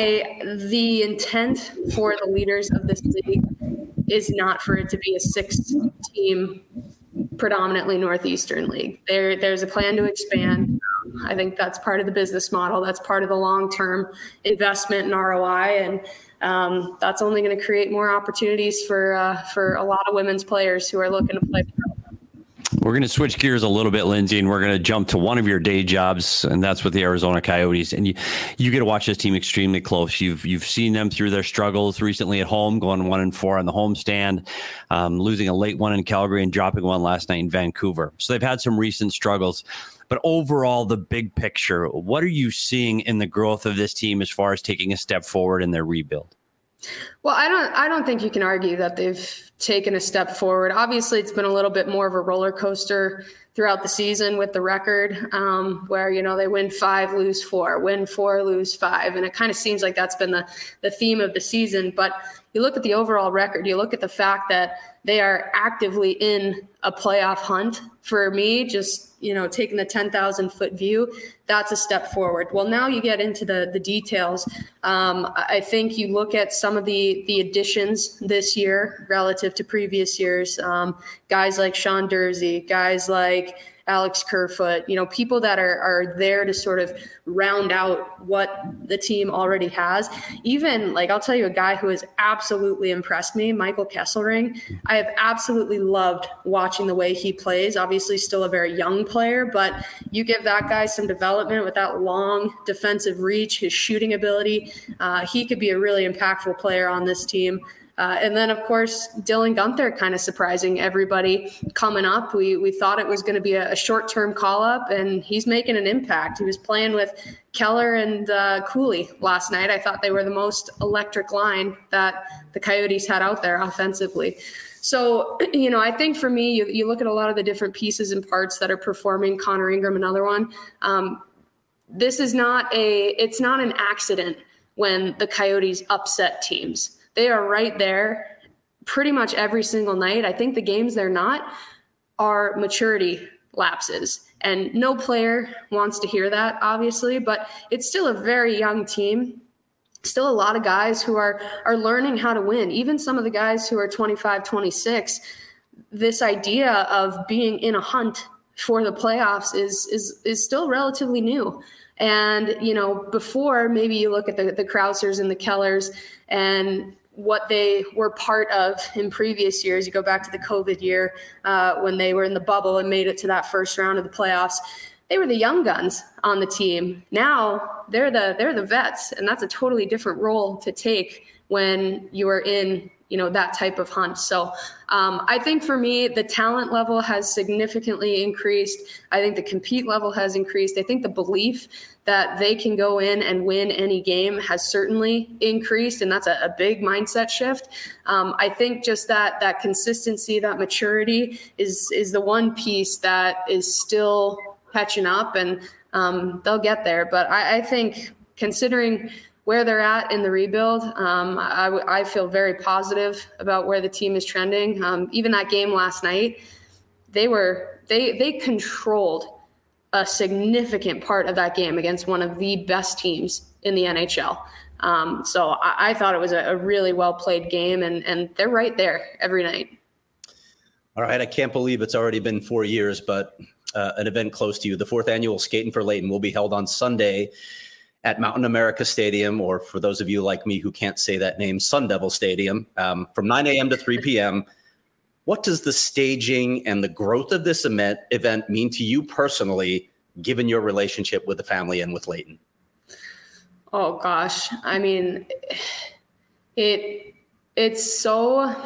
the intent for the leaders of this league is not for it to be a 6-team, predominantly Northeastern league. There's a plan to expand. I think that's part of the business model. That's part of the long-term investment in ROI, and that's only going to create more opportunities for a lot of women's players who are looking to play pro. We're going to switch gears a little bit, Lindsay, and we're going to jump to one of your day jobs, and that's with the Arizona Coyotes. And you get to watch this team extremely close. You've seen them through their struggles recently at home, going 1-4 on the homestand, losing a late one in Calgary and dropping one last night in Vancouver. So they've had some recent struggles. But overall, the big picture, what are you seeing in the growth of this team as far as taking a step forward in their rebuild? Well, I don't think you can argue that they've taken a step forward. Obviously, it's been a little bit more of a roller coaster throughout the season with the record, where, they win 5, lose 4, win 4, lose 5. And it kind of seems like that's been the theme of the season. But you look at the overall record, you look at the fact that they are actively in a playoff hunt. For me, just, taking the 10,000-foot view, that's a step forward. Well, now you get into the details. I think you look at some of the additions this year relative to previous years, guys like Sean Dursey, guys like Alex Kerfoot, people that are there to sort of round out what the team already has. Even I'll tell you a guy who has absolutely impressed me, Michael Kesselring. I have absolutely loved watching the way he plays. Obviously still a very young player, but you give that guy some development with that long defensive reach, his shooting ability. He could be a really impactful player on this team. And then, of course, Dylan Guenther kind of surprising everybody coming up. We thought it was going to be a short-term call-up, and he's making an impact. He was playing with Keller and Cooley last night. I thought they were the most electric line that the Coyotes had out there offensively. So, I think for me, you look at a lot of the different pieces and parts that are performing. Connor Ingram, another one. This is it's not an accident when the Coyotes upset teams. They are right there pretty much every single night. I think the games they're not are maturity lapses. And no player wants to hear that, obviously, but it's still a very young team. Still a lot of guys who are learning how to win. Even some of the guys who are 25, 26, this idea of being in a hunt for the playoffs is still relatively new. And, before maybe you look at the Krausers and the Kellers and what they were part of in previous years. You go back to the COVID year when they were in the bubble and made it to that first round of the playoffs. They were the young guns on the team. Now they're the vets, and that's a totally different role to take when you are in that type of hunt. So I think for me, the talent level has significantly increased. I think the compete level has increased. I think the belief that they can go in and win any game has certainly increased, and that's a big mindset shift. I think just that consistency, that maturity is the one piece that is still catching up, and they'll get there. But I think considering where they're at in the rebuild, I feel very positive about where the team is trending. Even that game last night, they controlled a significant part of that game against one of the best teams in the NHL. So I thought it was a really well played game, and they're right there every night. All right, I can't believe it's already been 4 years, but an event close to you, the 4th annual Skating for Layton, will be held on Sunday at Mountain America Stadium, or for those of you like me who can't say that name, Sun Devil Stadium, from 9 a.m. to 3 p.m. What does the staging and the growth of this event mean to you personally, given your relationship with the family and with Layton? Oh gosh, I mean, it's so,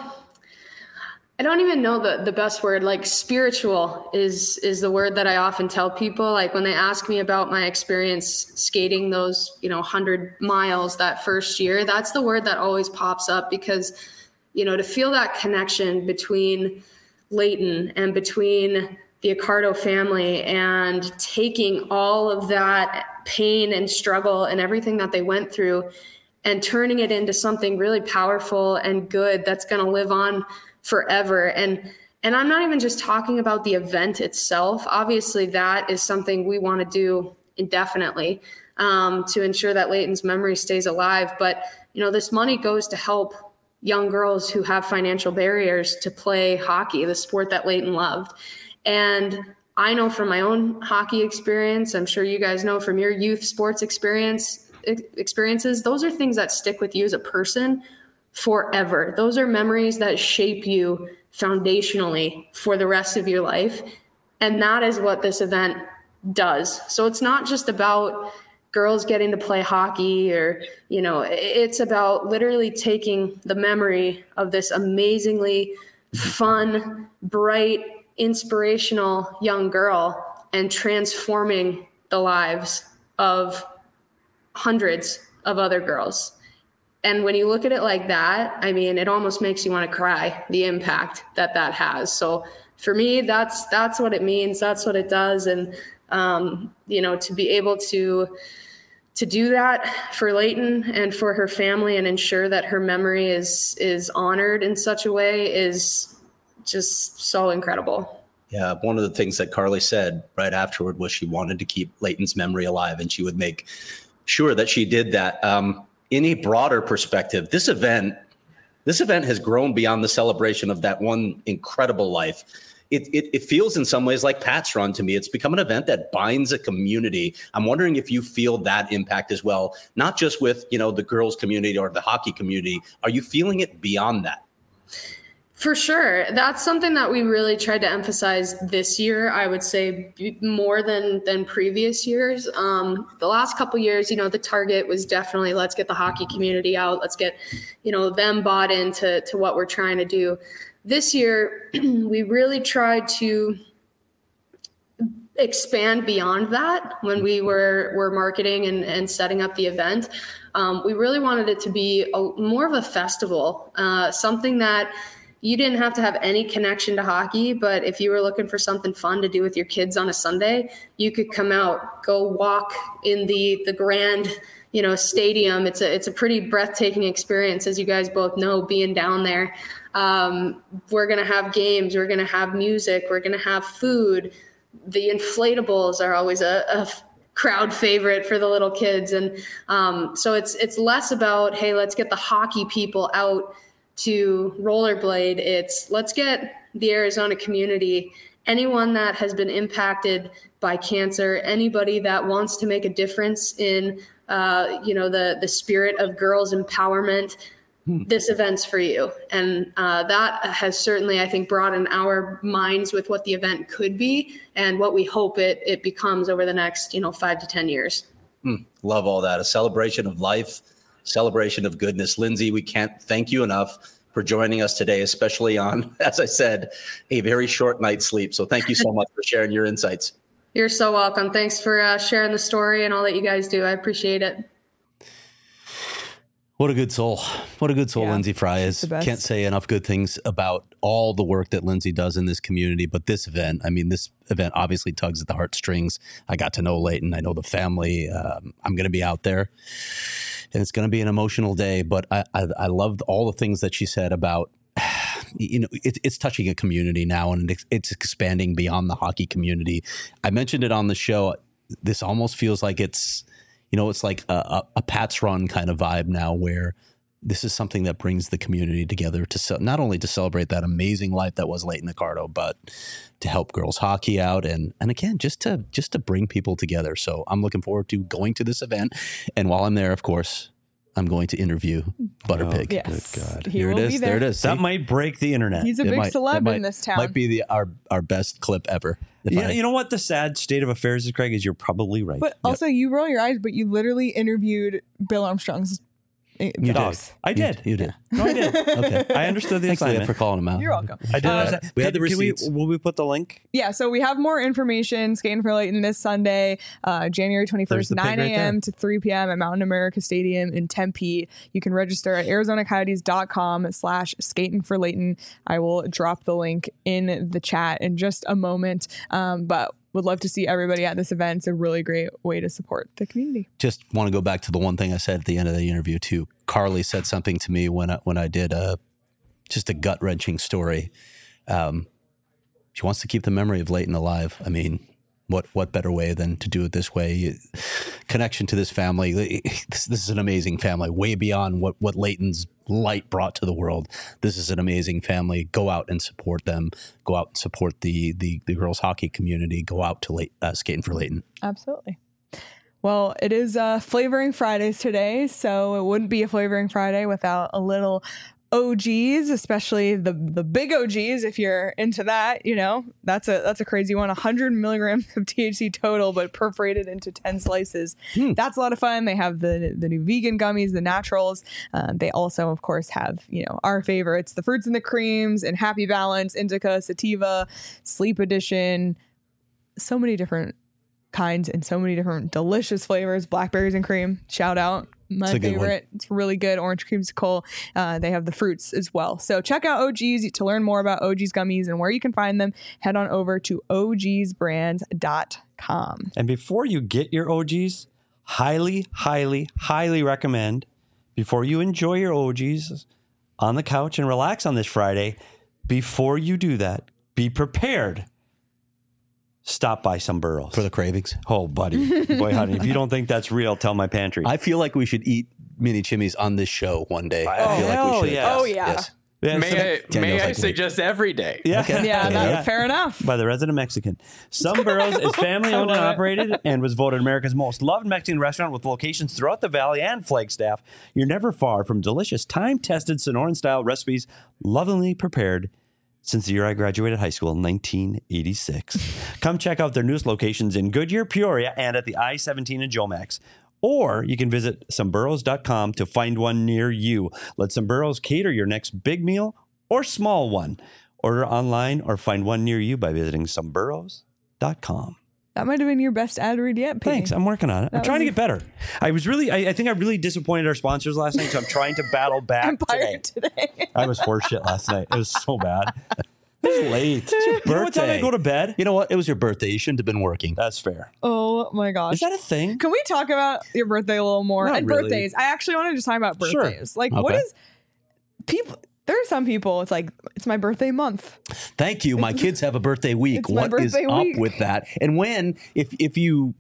I don't even know the best word. Like, spiritual is the word that I often tell people. Like, when they ask me about my experience skating those 100 miles that first year, that's the word that always pops up, because to feel that connection between Layton and between the Accardo family, and taking all of that pain and struggle and everything that they went through and turning it into something really powerful and good that's going to live on forever. And I'm not even just talking about the event itself. Obviously, that is something we want to do indefinitely to ensure that Layton's memory stays alive. But, this money goes to help young girls who have financial barriers to play hockey, the sport that Layton loved. And I know from my own hockey experience, I'm sure you guys know from your youth sports experiences, those are things that stick with you as a person forever. Those are memories that shape you foundationally for the rest of your life. And that is what this event does. So it's not just about girls getting to play hockey, or, it's about literally taking the memory of this amazingly fun, bright, inspirational young girl and transforming the lives of hundreds of other girls. And when you look at it like that, I mean, it almost makes you want to cry, the impact that has. So for me, that's what it means. That's what it does. And, to be able to do that for Layton and for her family, and ensure that her memory is honored in such a way, is just so incredible. Yeah, one of the things that Carly said right afterward was she wanted to keep Layton's memory alive, and she would make sure that she did that. In a broader perspective, this event has grown beyond the celebration of that one incredible life. It feels in some ways like Pat's Run to me. It's become an event that binds a community. I'm wondering if you feel that impact as well, not just with the girls community or the hockey community. Are you feeling it beyond that? For sure. That's something that we really tried to emphasize this year, I would say, more than previous years. The last couple of years, the target was definitely, let's get the hockey community out. Let's get, them bought into what we're trying to do. This year, we really tried to expand beyond that when we were marketing and setting up the event. We really wanted it to be more of a festival, something that you didn't have to have any connection to hockey, but if you were looking for something fun to do with your kids on a Sunday, you could come out, go walk in the grand, stadium. It's a pretty breathtaking experience, as you guys both know, being down there. We're going to have games. We're going to have music. We're going to have food. The inflatables are always a crowd favorite for the little kids. And so it's less about, hey, let's get the hockey people out to rollerblade. It's let's get the Arizona community, anyone that has been impacted by cancer, anybody that wants to make a difference in the spirit of girls empowerment, this event's for you. And that has certainly, I think, broadened our minds with what the event could be and what we hope it becomes over the next 5 to 10 years. Love all that. A celebration of life, celebration of goodness. Lindsay, we can't thank you enough for joining us today, especially on, as I said, a very short night's sleep. So thank you so much for sharing your insights. You're so welcome. Thanks for sharing the story and all that you guys do. I appreciate it. What a good soul. What a good soul Lindsay Fry is. the best. Can't say enough good things about all the work that Lindsay does in this community. But this event obviously tugs at the heartstrings. I got to know Leighton. I know the family. I'm going to be out there. And it's going to be an emotional day. But I loved all the things that she said about, it's touching a community now, and it's expanding beyond the hockey community. I mentioned it on the show. This almost feels like it's like a Pats Run kind of vibe now, where this is something that brings the community together to not only to celebrate that amazing life that was Leighton Accardo, but to help girls hockey out. And again, just to bring people together. So I'm looking forward to going to this event. And while I'm there, of course, I'm going to interview Butterpig. Yes. Good God. He Here will it be is. there. There it is. That See? might break the internet. He's a It big might- celeb it might- in this town. Might be our best clip ever. You know what the sad state of affairs is, Craig, is you're probably right. But also, you roll your eyes, but you literally interviewed Bill Armstrong's You dogs. did. I did. You did. No, I did. Okay. I understood the Thanks, Leah, assignment. for calling him out. You're welcome. I did. We had the receipts. Will we put the link? Yeah, so we have more information. Skating for Leighton this Sunday, January There's 21st, the pig 9 right a.m. there. to 3 p.m. at Mountain America Stadium in Tempe. You can register at arizonacoyotes.com/skating for Leighton. I will drop the link in the chat in just a moment. But would love to see everybody at this event. It's a really great way to support the community. Just want to go back to the one thing I said at the end of the interview too. Carly said something to me when I did just a gut wrenching story. She wants to keep the memory of Leighton alive. I mean, what better way than to do it this way? Connection to this family. This is an amazing family, way beyond what Leighton's light brought to the world. This is an amazing family. Go out and support them. Go out and support the girls hockey community. Go out to Skating for Leighton. Absolutely. Well, it is Flavoring Fridays today, so it wouldn't be a Flavoring Friday without a little OGs, especially the big OGs. If you're into that, that's a crazy one. 100 milligrams of THC total, but perforated into 10 slices. That's a lot of fun. They have the new vegan gummies, the naturals. They also, of course, have our favorites, the fruits and the creams, and Happy Balance, Indica, Sativa, Sleep Edition. So many different kinds and so many different delicious flavors. Blackberries and cream, shout out. My favorite. It's really good. Orange creamsicle. They have the fruits as well. So check out OGs to learn more about OGs gummies and where you can find them. Head on over to ogsbrands.com. And before you get your OGs, highly, highly, highly recommend, before you enjoy your OGs on the couch and relax on this Friday, before you do that, be prepared. Stop by some Burrows. For the cravings. Oh, buddy. Boy, honey, if you don't think that's real, tell my pantry. I feel like we should eat mini chimneys on this show one day. I feel like hell we should. yes. Oh, yeah. Yes. Yeah, May Daniel's I like, suggest every day? Yeah. Okay. Yeah, fair enough. By the resident Mexican. Some Burrows is family owned and operated and was voted America's most loved Mexican restaurant with locations throughout the valley and Flagstaff. You're never far from delicious, time-tested Sonoran-style recipes, lovingly prepared since the year I graduated high school in 1986. Come check out their newest locations in Goodyear, Peoria, and at the I-17 in Jomax. Or you can visit someburrows.com to find one near you. Let Some Burrows cater your next big meal or small one. Order online or find one near you by visiting someburrows.com. That might have been your best ad read yet, Pete. Thanks. I'm working on it. I'm trying to get better. I think I really disappointed our sponsors last night, so I'm trying to battle back Empire today. I was horseshit last night. It was so bad. It was late. It's your birthday. You know what time I go to bed? You know what? It was your birthday. You shouldn't have been working. That's fair. Oh my gosh. Is that a thing? Can we talk about your birthday a little more? Not And really. birthdays. I actually wanted to talk about Sure. birthdays. Like, what Okay. is people? There are some people. It's like it's my birthday month. Thank you. My kids have a birthday week. It's my What is birthday week. up with that? And if you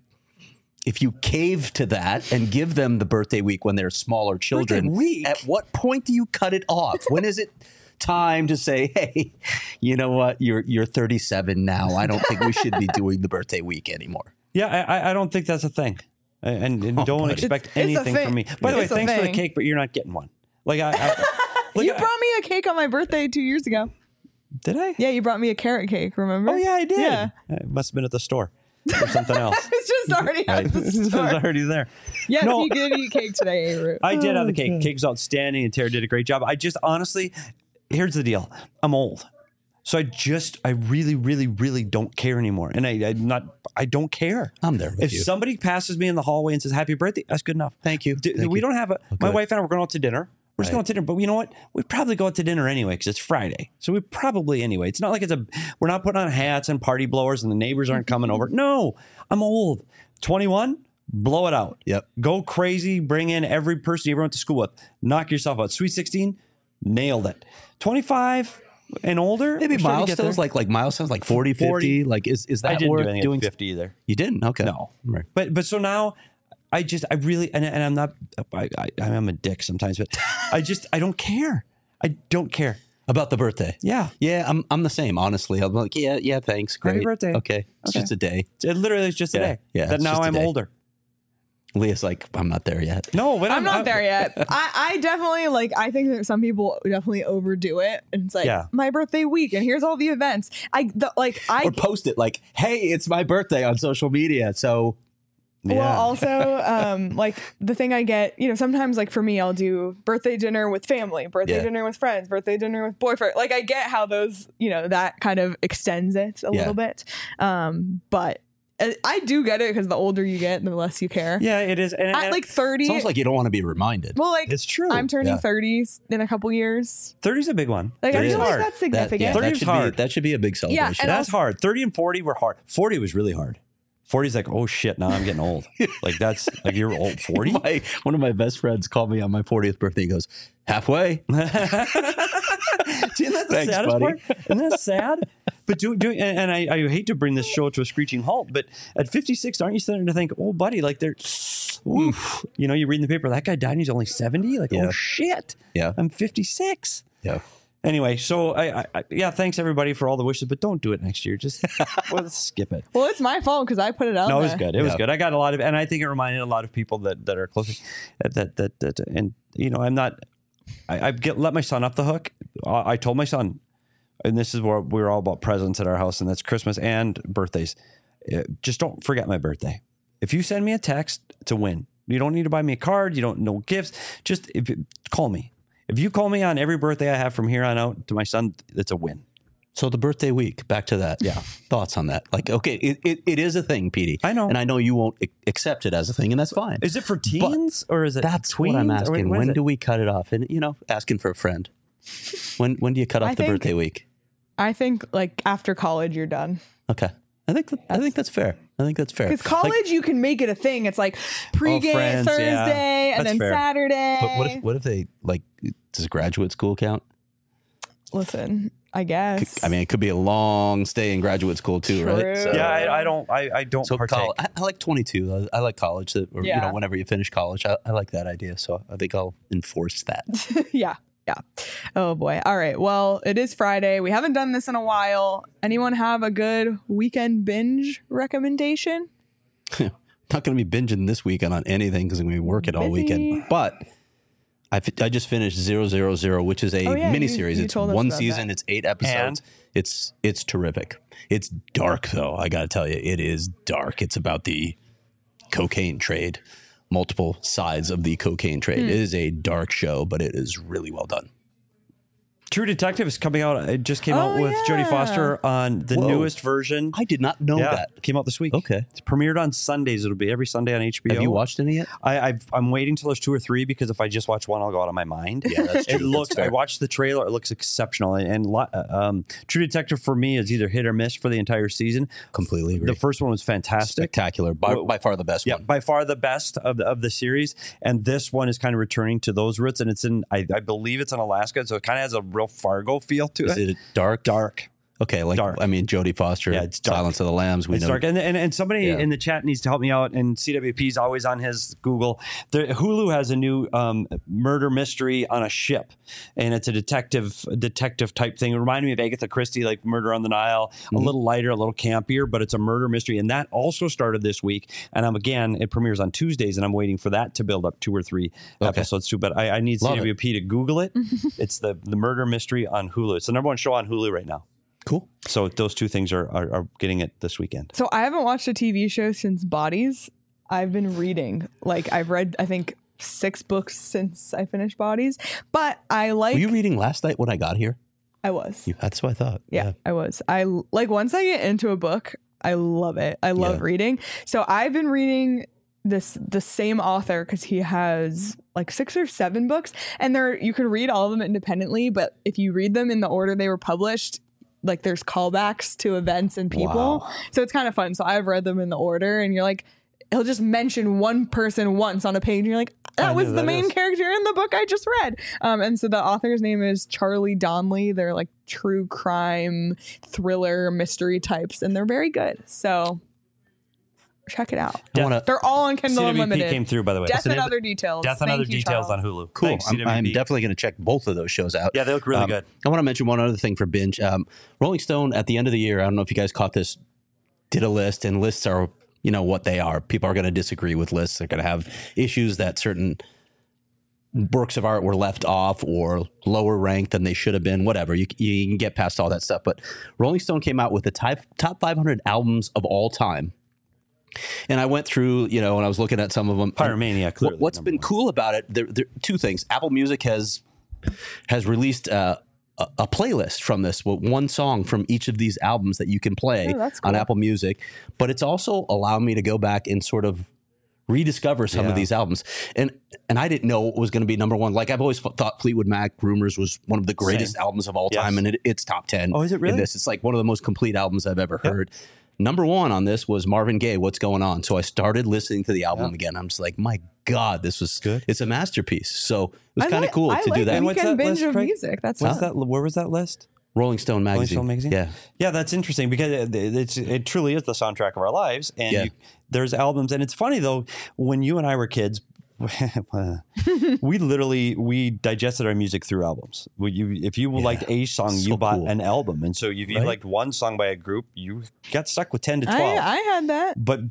cave to that and give them the birthday week when they're smaller children, Birthday week? at what point do you cut it off? When is it time to say, hey, you know what? You're 37 now. I don't think we should be doing the birthday week anymore. Yeah, I don't think that's a thing. And don't expect It's a anything thing. from me. By the way, It's a thanks for the thing. cake, but you're not getting one. Like You brought me a cake on my birthday 2 years ago. Did I? Yeah, you brought me a carrot cake. Remember? Oh yeah, I did. Yeah. It must have been at the store. or something else. It's just already at the It's store. already there. Yes, No. you did eat cake today, A-Root. I did have the cake. Cake was outstanding, and Tara did a great job. I just honestly, here's the deal. I'm old. So I really, really, really don't care anymore. And I don't care. I'm there with If you. somebody passes me in the hallway and says, happy birthday, that's good enough. Thank you. We Thank you. don't have my wife and I were going out to dinner. We're just going to dinner. But you know what? We'd probably go out to dinner anyway because it's Friday. So we probably anyway. It's not like we're not putting on hats and party blowers and the neighbors aren't coming over. No, I'm old. 21, blow it out. Yep. Go crazy. Bring in every person you ever went to school with. Knock yourself out. Sweet 16, nailed it. 25 and older. Maybe we're starting to get milestones, there. like milestones, like 40, 50. 40. Like, is that I didn't worth do anything doing? at 50 either. You didn't? Okay. No. Right. But so now I really, and I'm not, I'm a dick sometimes, but I don't care. I don't care. About the birthday. Yeah. Yeah, I'm the same, honestly. I'm like, yeah, thanks. Great. Happy birthday. Okay. It's Okay. just a day. It literally is just a Yeah, day. yeah, That it's now just a I'm day. older. Leah's like, I'm not there yet. No, but I'm not there yet. I definitely I think that some people definitely overdo it. And it's like Yeah. my birthday week and here's all the events. Or post it like, hey, it's my birthday on social media. So Well, also, like the thing I get, sometimes like for me, I'll do birthday dinner with family, birthday dinner with friends, birthday dinner with boyfriend. Like I get how those, that kind of extends it a little bit. But I do get it because the older you get, the less you care. Yeah, it is. And At like 30, it's almost like you don't want to be reminded. well, like it's true. I'm turning Yeah. 30s in a couple years. 30's a big one. Like I 30's feel like hard. that's significant. 30 that is should hard. That should be a big celebration. and That's hard. 30 and 40 were hard. 40 was really hard. 40's like, oh shit, now I'm getting old. Like that's like you're old. 40? One of my best friends called me on my 40th birthday. He goes, halfway. See, and that's the Thanks, saddest buddy. part. Isn't that sad? But and I hate to bring this show to a screeching halt, but at 56, aren't you starting to think, oh, buddy, like they're, oof. You read in the paper, that guy died and he's only 70? Like, Yeah. oh, shit. Yeah. I'm 56. Yeah. Anyway, so I thanks everybody for all the wishes, but don't do it next year. Just let's skip it. Well, it's my fault because I put it out No, it there. was good. It was Yeah. good. I got a lot of, and I think it reminded a lot of people that are close. And I'm not. Let my son off the hook. I told my son, and this is where we're all about presents at our house, and that's Christmas and birthdays. Just don't forget my birthday. If you send me a text, it's a win. You don't need to buy me a card. You don't know gifts. Just call me. If you call me on every birthday I have from here on out to my son, it's a win. So the birthday week, back to that. Yeah. Thoughts on that? Like, okay, it is a thing, Petey. I know. And I know you won't accept it as a thing, and that's fine. Is it for teens or is it That's tweens? what I'm Or asking. what is When it? do we cut it off? And, asking for a friend. When do you cut off I the think- birthday week? I think like after college, you're done. Okay. I think that's fair. I think that's fair. Because college, you can make it a thing. It's like pregame friends, Thursday yeah. and That's then fair. Saturday. But what if they does graduate school count? Listen, I guess. I mean, it could be a long stay in graduate school too, True. right? So, Yeah, I don't so partake. I like 22. I like college. Or Yeah. whenever you finish college, I like that idea. So I think I'll enforce that. Yeah. Oh boy. All right. Well, it is Friday. We haven't done this in a while. Anyone have a good weekend binge recommendation? Not going to be binging this weekend on anything because I'm going to be working all Busy. weekend. But I just finished 000, which is a Oh, yeah, miniseries. you It's told us one about season. that. It's 8 episodes. It's terrific. It's dark though. I got to tell you, it is dark. It's about the cocaine trade, multiple sides of the cocaine trade. It is a dark show, but it is really well done. True Detective is coming out. It just came Oh, out with Jodie yeah. Foster on the Whoa. newest version. I did not know that. Came out this week. Okay. It's premiered on Sundays. It'll be every Sunday on HBO. Have you watched any yet? I'm waiting till there's 2 or 3 because if I just watch one, I'll go out of my mind. Yeah, that's true. It looks. That's fair. I watched the trailer. It looks exceptional. And True Detective for me is either hit or miss for the entire season. Completely agree. The first one was fantastic. Spectacular. By far the best Yeah, one. by far the best of the series, and this one is kind of returning to those roots, and it's in I believe it's in Alaska, so it kind of has a real Fargo feel to Is it. it dark? Dark. Okay, Dark. I mean, Jodie Foster, Yeah, it's dark. Silence of the Lambs. We It's know. dark, and somebody Yeah. in the chat needs to help me out. And CWP's always on his Google. Hulu has a new murder mystery on a ship, and it's a detective type thing. It reminded me of Agatha Christie, like Murder on the Nile. A little lighter, a little campier, but it's a murder mystery, and that also started this week. And it premieres on Tuesdays, and I'm waiting for that to build up 2 or 3 episodes too. But I need Love CWP to Google it. It's the murder mystery on Hulu. It's the #1 show on Hulu right now. Cool. So those two things are getting it this weekend. So I haven't watched a TV show since Bodies. I've been reading. Like I've read, I think, 6 books since I finished Bodies. But I like. Were you reading last night when I got here? I was. That's what I thought. Yeah, I was. I like once I get into a book, I love it. I love reading. So I've been reading the same author because he has like 6 or 7 books, and you can read all of them independently. But if you read them in the order they were published, like there's callbacks to events and people. Wow. So it's kind of fun. So I've read them in the order, and you're like, he'll just mention one person once on a page, and you're like, that was the main character in the book I just read. And so the author's name is Charlie Donnelly. They're like true crime, thriller, mystery types, and they're very good. So check it out. They're all on Kindle CWP Unlimited. came through, by the way. Death and Other Details. Death and Other Thank you, Details Charles. on Hulu. Cool. Thanks, I'm CWP. definitely going to check both of those shows out. Yeah, they look really good. I want to mention one other thing for binge. Rolling Stone at the end of the year, I don't know if you guys caught this, did a list, and lists are, what they are. People are going to disagree with lists. They're going to have issues that certain works of art were left off or lower ranked than they should have been, whatever. You can get past all that stuff. But Rolling Stone came out with the top 500 albums of all time. And I went through, and I was looking at some of them. Pyromania, clearly. What's been cool about it, there are 2 things. Apple Music has released a playlist from this, with one song from each of these albums that you can play on Apple Music. But it's also allowed me to go back and sort of rediscover some of these albums. And I didn't know it was going to be number one. Like I've always thought Fleetwood Mac Rumors was one of the greatest albums of all time. And it's top 10. Oh, is it really? It's like one of the most complete albums I've ever heard. Number 1 on this was Marvin Gaye, What's Going On? So I started listening to the album again. I'm just like, my God, this was good. It's a masterpiece. So it was kind of cool to do that. I What's weekend that binge list, of Craig? music. That's What's that? Where was that list? Rolling Stone magazine. Yeah, that's interesting because it truly is the soundtrack of our lives. And there's albums, and it's funny though, when you and I were kids, we digested our music through albums. If you liked a song, you bought an album, and so if you liked one song by a group, you got stuck with 10 to 12. I had that, but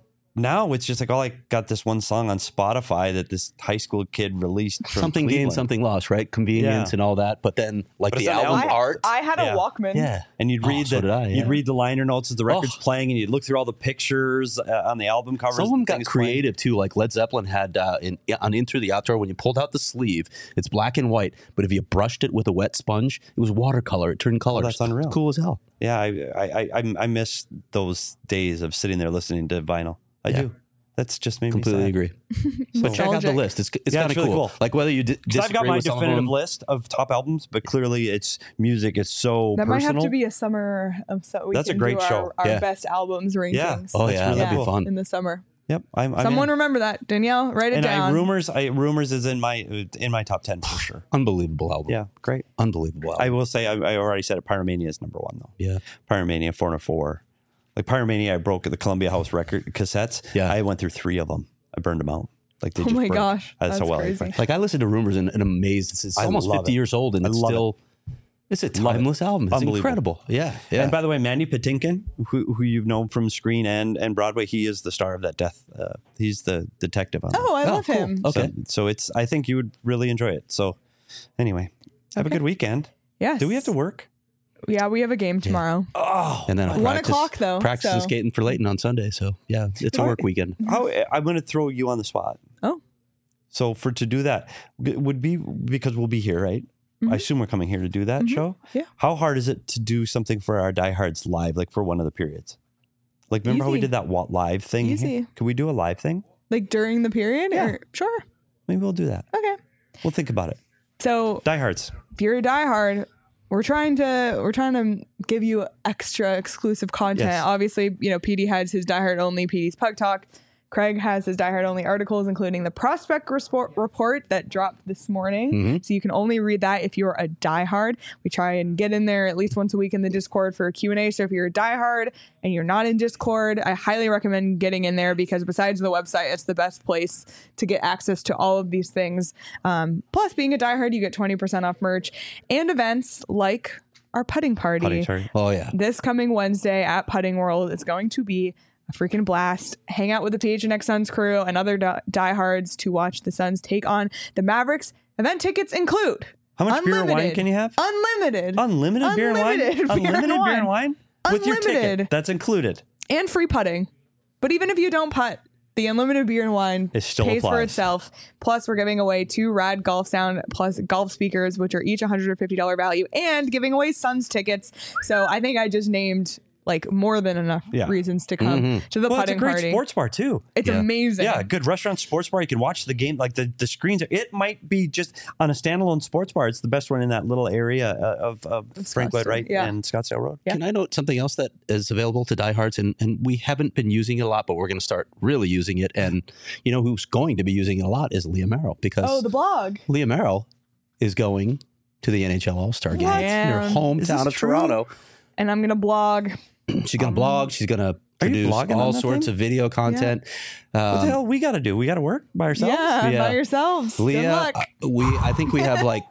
now it's just like, I got this one song on Spotify that this high school kid released from something Cleveland. Gained, something lost, right? Convenience and all that. But then the album art. I had a Walkman. Yeah. And you'd read you'd read the liner notes as the record's playing, and you'd look through all the pictures on the album covers. Some of them got creative too. Like Led Zeppelin had on In Through the Outdoor, when you pulled out the sleeve, it's black and white, but if you brushed it with a wet sponge, it was watercolor. It turned colors. That's unreal. It's cool as hell. Yeah, I miss those days of sitting there listening to vinyl. I do. That's just made me completely sad. agree. But check out the list. It's kind of really cool. Like whether you disagree I've got my with some of definitive them. list of top albums, but clearly it's music is so that personal. might have to be a summer. So That's a great show. Our best albums rankings. Yeah. Oh yeah, really that'd cool. be fun. In the summer. Yep. Someone remember that, Danielle. Write it down. Rumors is in my top 10 for sure. Unbelievable album. Yeah, great. Unbelievable album. I will say I already said it. Pyromania is number 1 though. Yeah. Pyromania 404. Like Pyromania, I broke the Columbia House record cassettes. Yeah. I went through 3 of them. I burned them out. Like they Oh just my burned. gosh, That's how well. crazy. Like I listened to Rumors and amazed. It's almost love 50 it. years old and it's love still. It's a timeless album. It's Unbelievable. incredible. Yeah. Yeah. And by the way, Mandy Patinkin, who you've known from screen and Broadway, he is the star of that Death. He's the detective on Oh, I love cool. him. Okay. So it's. I think you would really enjoy it. So anyway, have a good weekend. Yes. Do we have to work? Yeah, we have a game tomorrow. Oh, And then I'll 1 o'clock though. practice so. skating for Leighton on Sunday. So yeah, it's a work weekend. I'm going to throw you on the spot. Oh. So to do that would be because we'll be here, right? I assume we're coming here to do that show. Yeah. How hard is it to do something for our diehards live, like for one of the periods? Like, remember how we Easy. did that live thing? Easy. Here? Can we do a live thing? Like during the period? Yeah. Sure. Maybe we'll do that. Okay. We'll think about it. So Diehards. if you're a diehard, we're trying to give you extra exclusive content. Yes. Obviously, PD has his diehard only PD's Puck Talk. Craig has his diehard only articles, including the prospect report that dropped this morning. So you can only read that if you're a diehard. We try and get in there at least once a week in the Discord for a Q&A. So if you're a diehard and you're not in Discord, I highly recommend getting in there because besides the website, it's the best place to get access to all of these things. Plus, being a diehard, you get 20% off merch and events like our putting party. Oh yeah. This coming Wednesday at Putting World. It's going to be a freaking blast. Hang out with the PHNX Suns crew and other diehards to watch the Suns take on the Mavericks. Event tickets include How much beer and wine can you have? Unlimited. Unlimited beer and wine? Unlimited beer and wine? With your ticket. That's included. And free putting. But even if you don't putt, the unlimited beer and wine It still pays for applies. itself. Plus, we're giving away 2 rad golf sound plus golf speakers, which are each $150 value, and giving away Suns tickets. So I think I just named like more than enough reasons to come to the Well, it's a putting great party. sports bar too. It's amazing. Yeah, good restaurant, sports bar. You can watch the game. Like the screens. It might be just on a standalone sports bar. It's the best one in that little area of Frank Lloyd Wright and Scottsdale Road. Yeah. Can I note something else that is available to diehards? And we haven't been using it a lot, but we're going to start really using it. And you know who's going to be using it a lot is Leah Merrill, because the blog. Leah Merrill is going to the NHL All-Star game in her hometown of Toronto. And I'm going to blog. She's going to blog. She's going to produce all sorts of video content. What the hell we got to do? We got to work by ourselves? Yeah, by yourselves. Leah, Good luck. I think we have like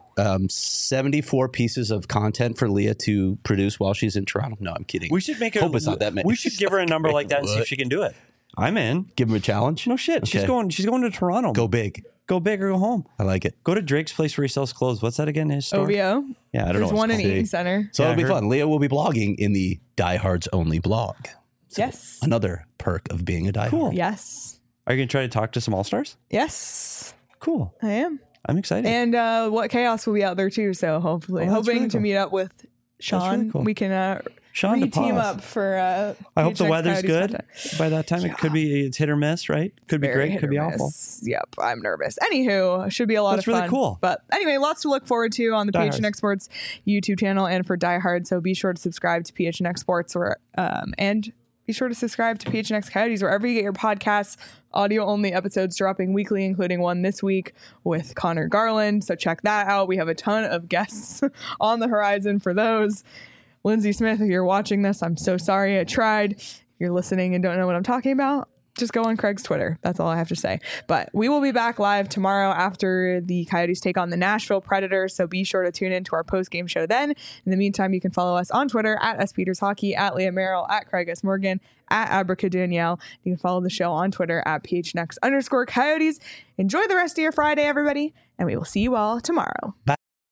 74 pieces of content for Leah to produce while she's in Toronto. No, I'm kidding. We should make Hope it's not that many. We should give her a number like that and see if she can do it. I'm in. Give her a challenge. No shit. Okay. She's going to Toronto. Go big. Go big or go home. I like it. Go to Drake's place where he sells clothes. What's that again? His store? OVO. Yeah, I don't There's know. one in Eaton. Eaton Center. So Yeah, it'll be I heard- fun. Leah will be blogging in the Diehards Only blog. So Yes. Another perk of being a diehard. Cool. Yes. Are you going to try to talk to some All-Stars? Yes. Cool. I am. I'm excited. And What Chaos will be out there too. So hopefully, Oh, that's hoping really to cool. meet up with Sean. really cool. We can Sean re-team DePaz. up for. I hope the PHNX weather's Coyotes good. content. By that time, it could be it's hit or miss, right? Could be Very great. hit Could or be awful. miss. Yep, I'm nervous. Anywho, should be a lot That's of fun. really cool. But anyway, lots to look forward to on the Diehards. PHNX Sports YouTube channel and for Diehard. So be sure to subscribe to PHNX Sports and be sure to subscribe to PHNX Coyotes wherever you get your podcasts. Audio only episodes dropping weekly, including one this week with Connor Garland. So check that out. We have a ton of guests on the horizon for those. Lindsay Smith, if you're watching this, I'm so sorry I tried. If you're listening and don't know what I'm talking about, just go on Craig's Twitter. That's all I have to say. But we will be back live tomorrow after the Coyotes take on the Nashville Predators. So be sure to tune in to our post-game show then. In the meantime, you can follow us on Twitter at @SPetersHockey, at Leah Merrill, at Craig S. Morgan, at Abrica Danielle. You can follow the show on Twitter at PHNX_Coyotes. Enjoy the rest of your Friday, everybody, and we will see you all tomorrow. Bye.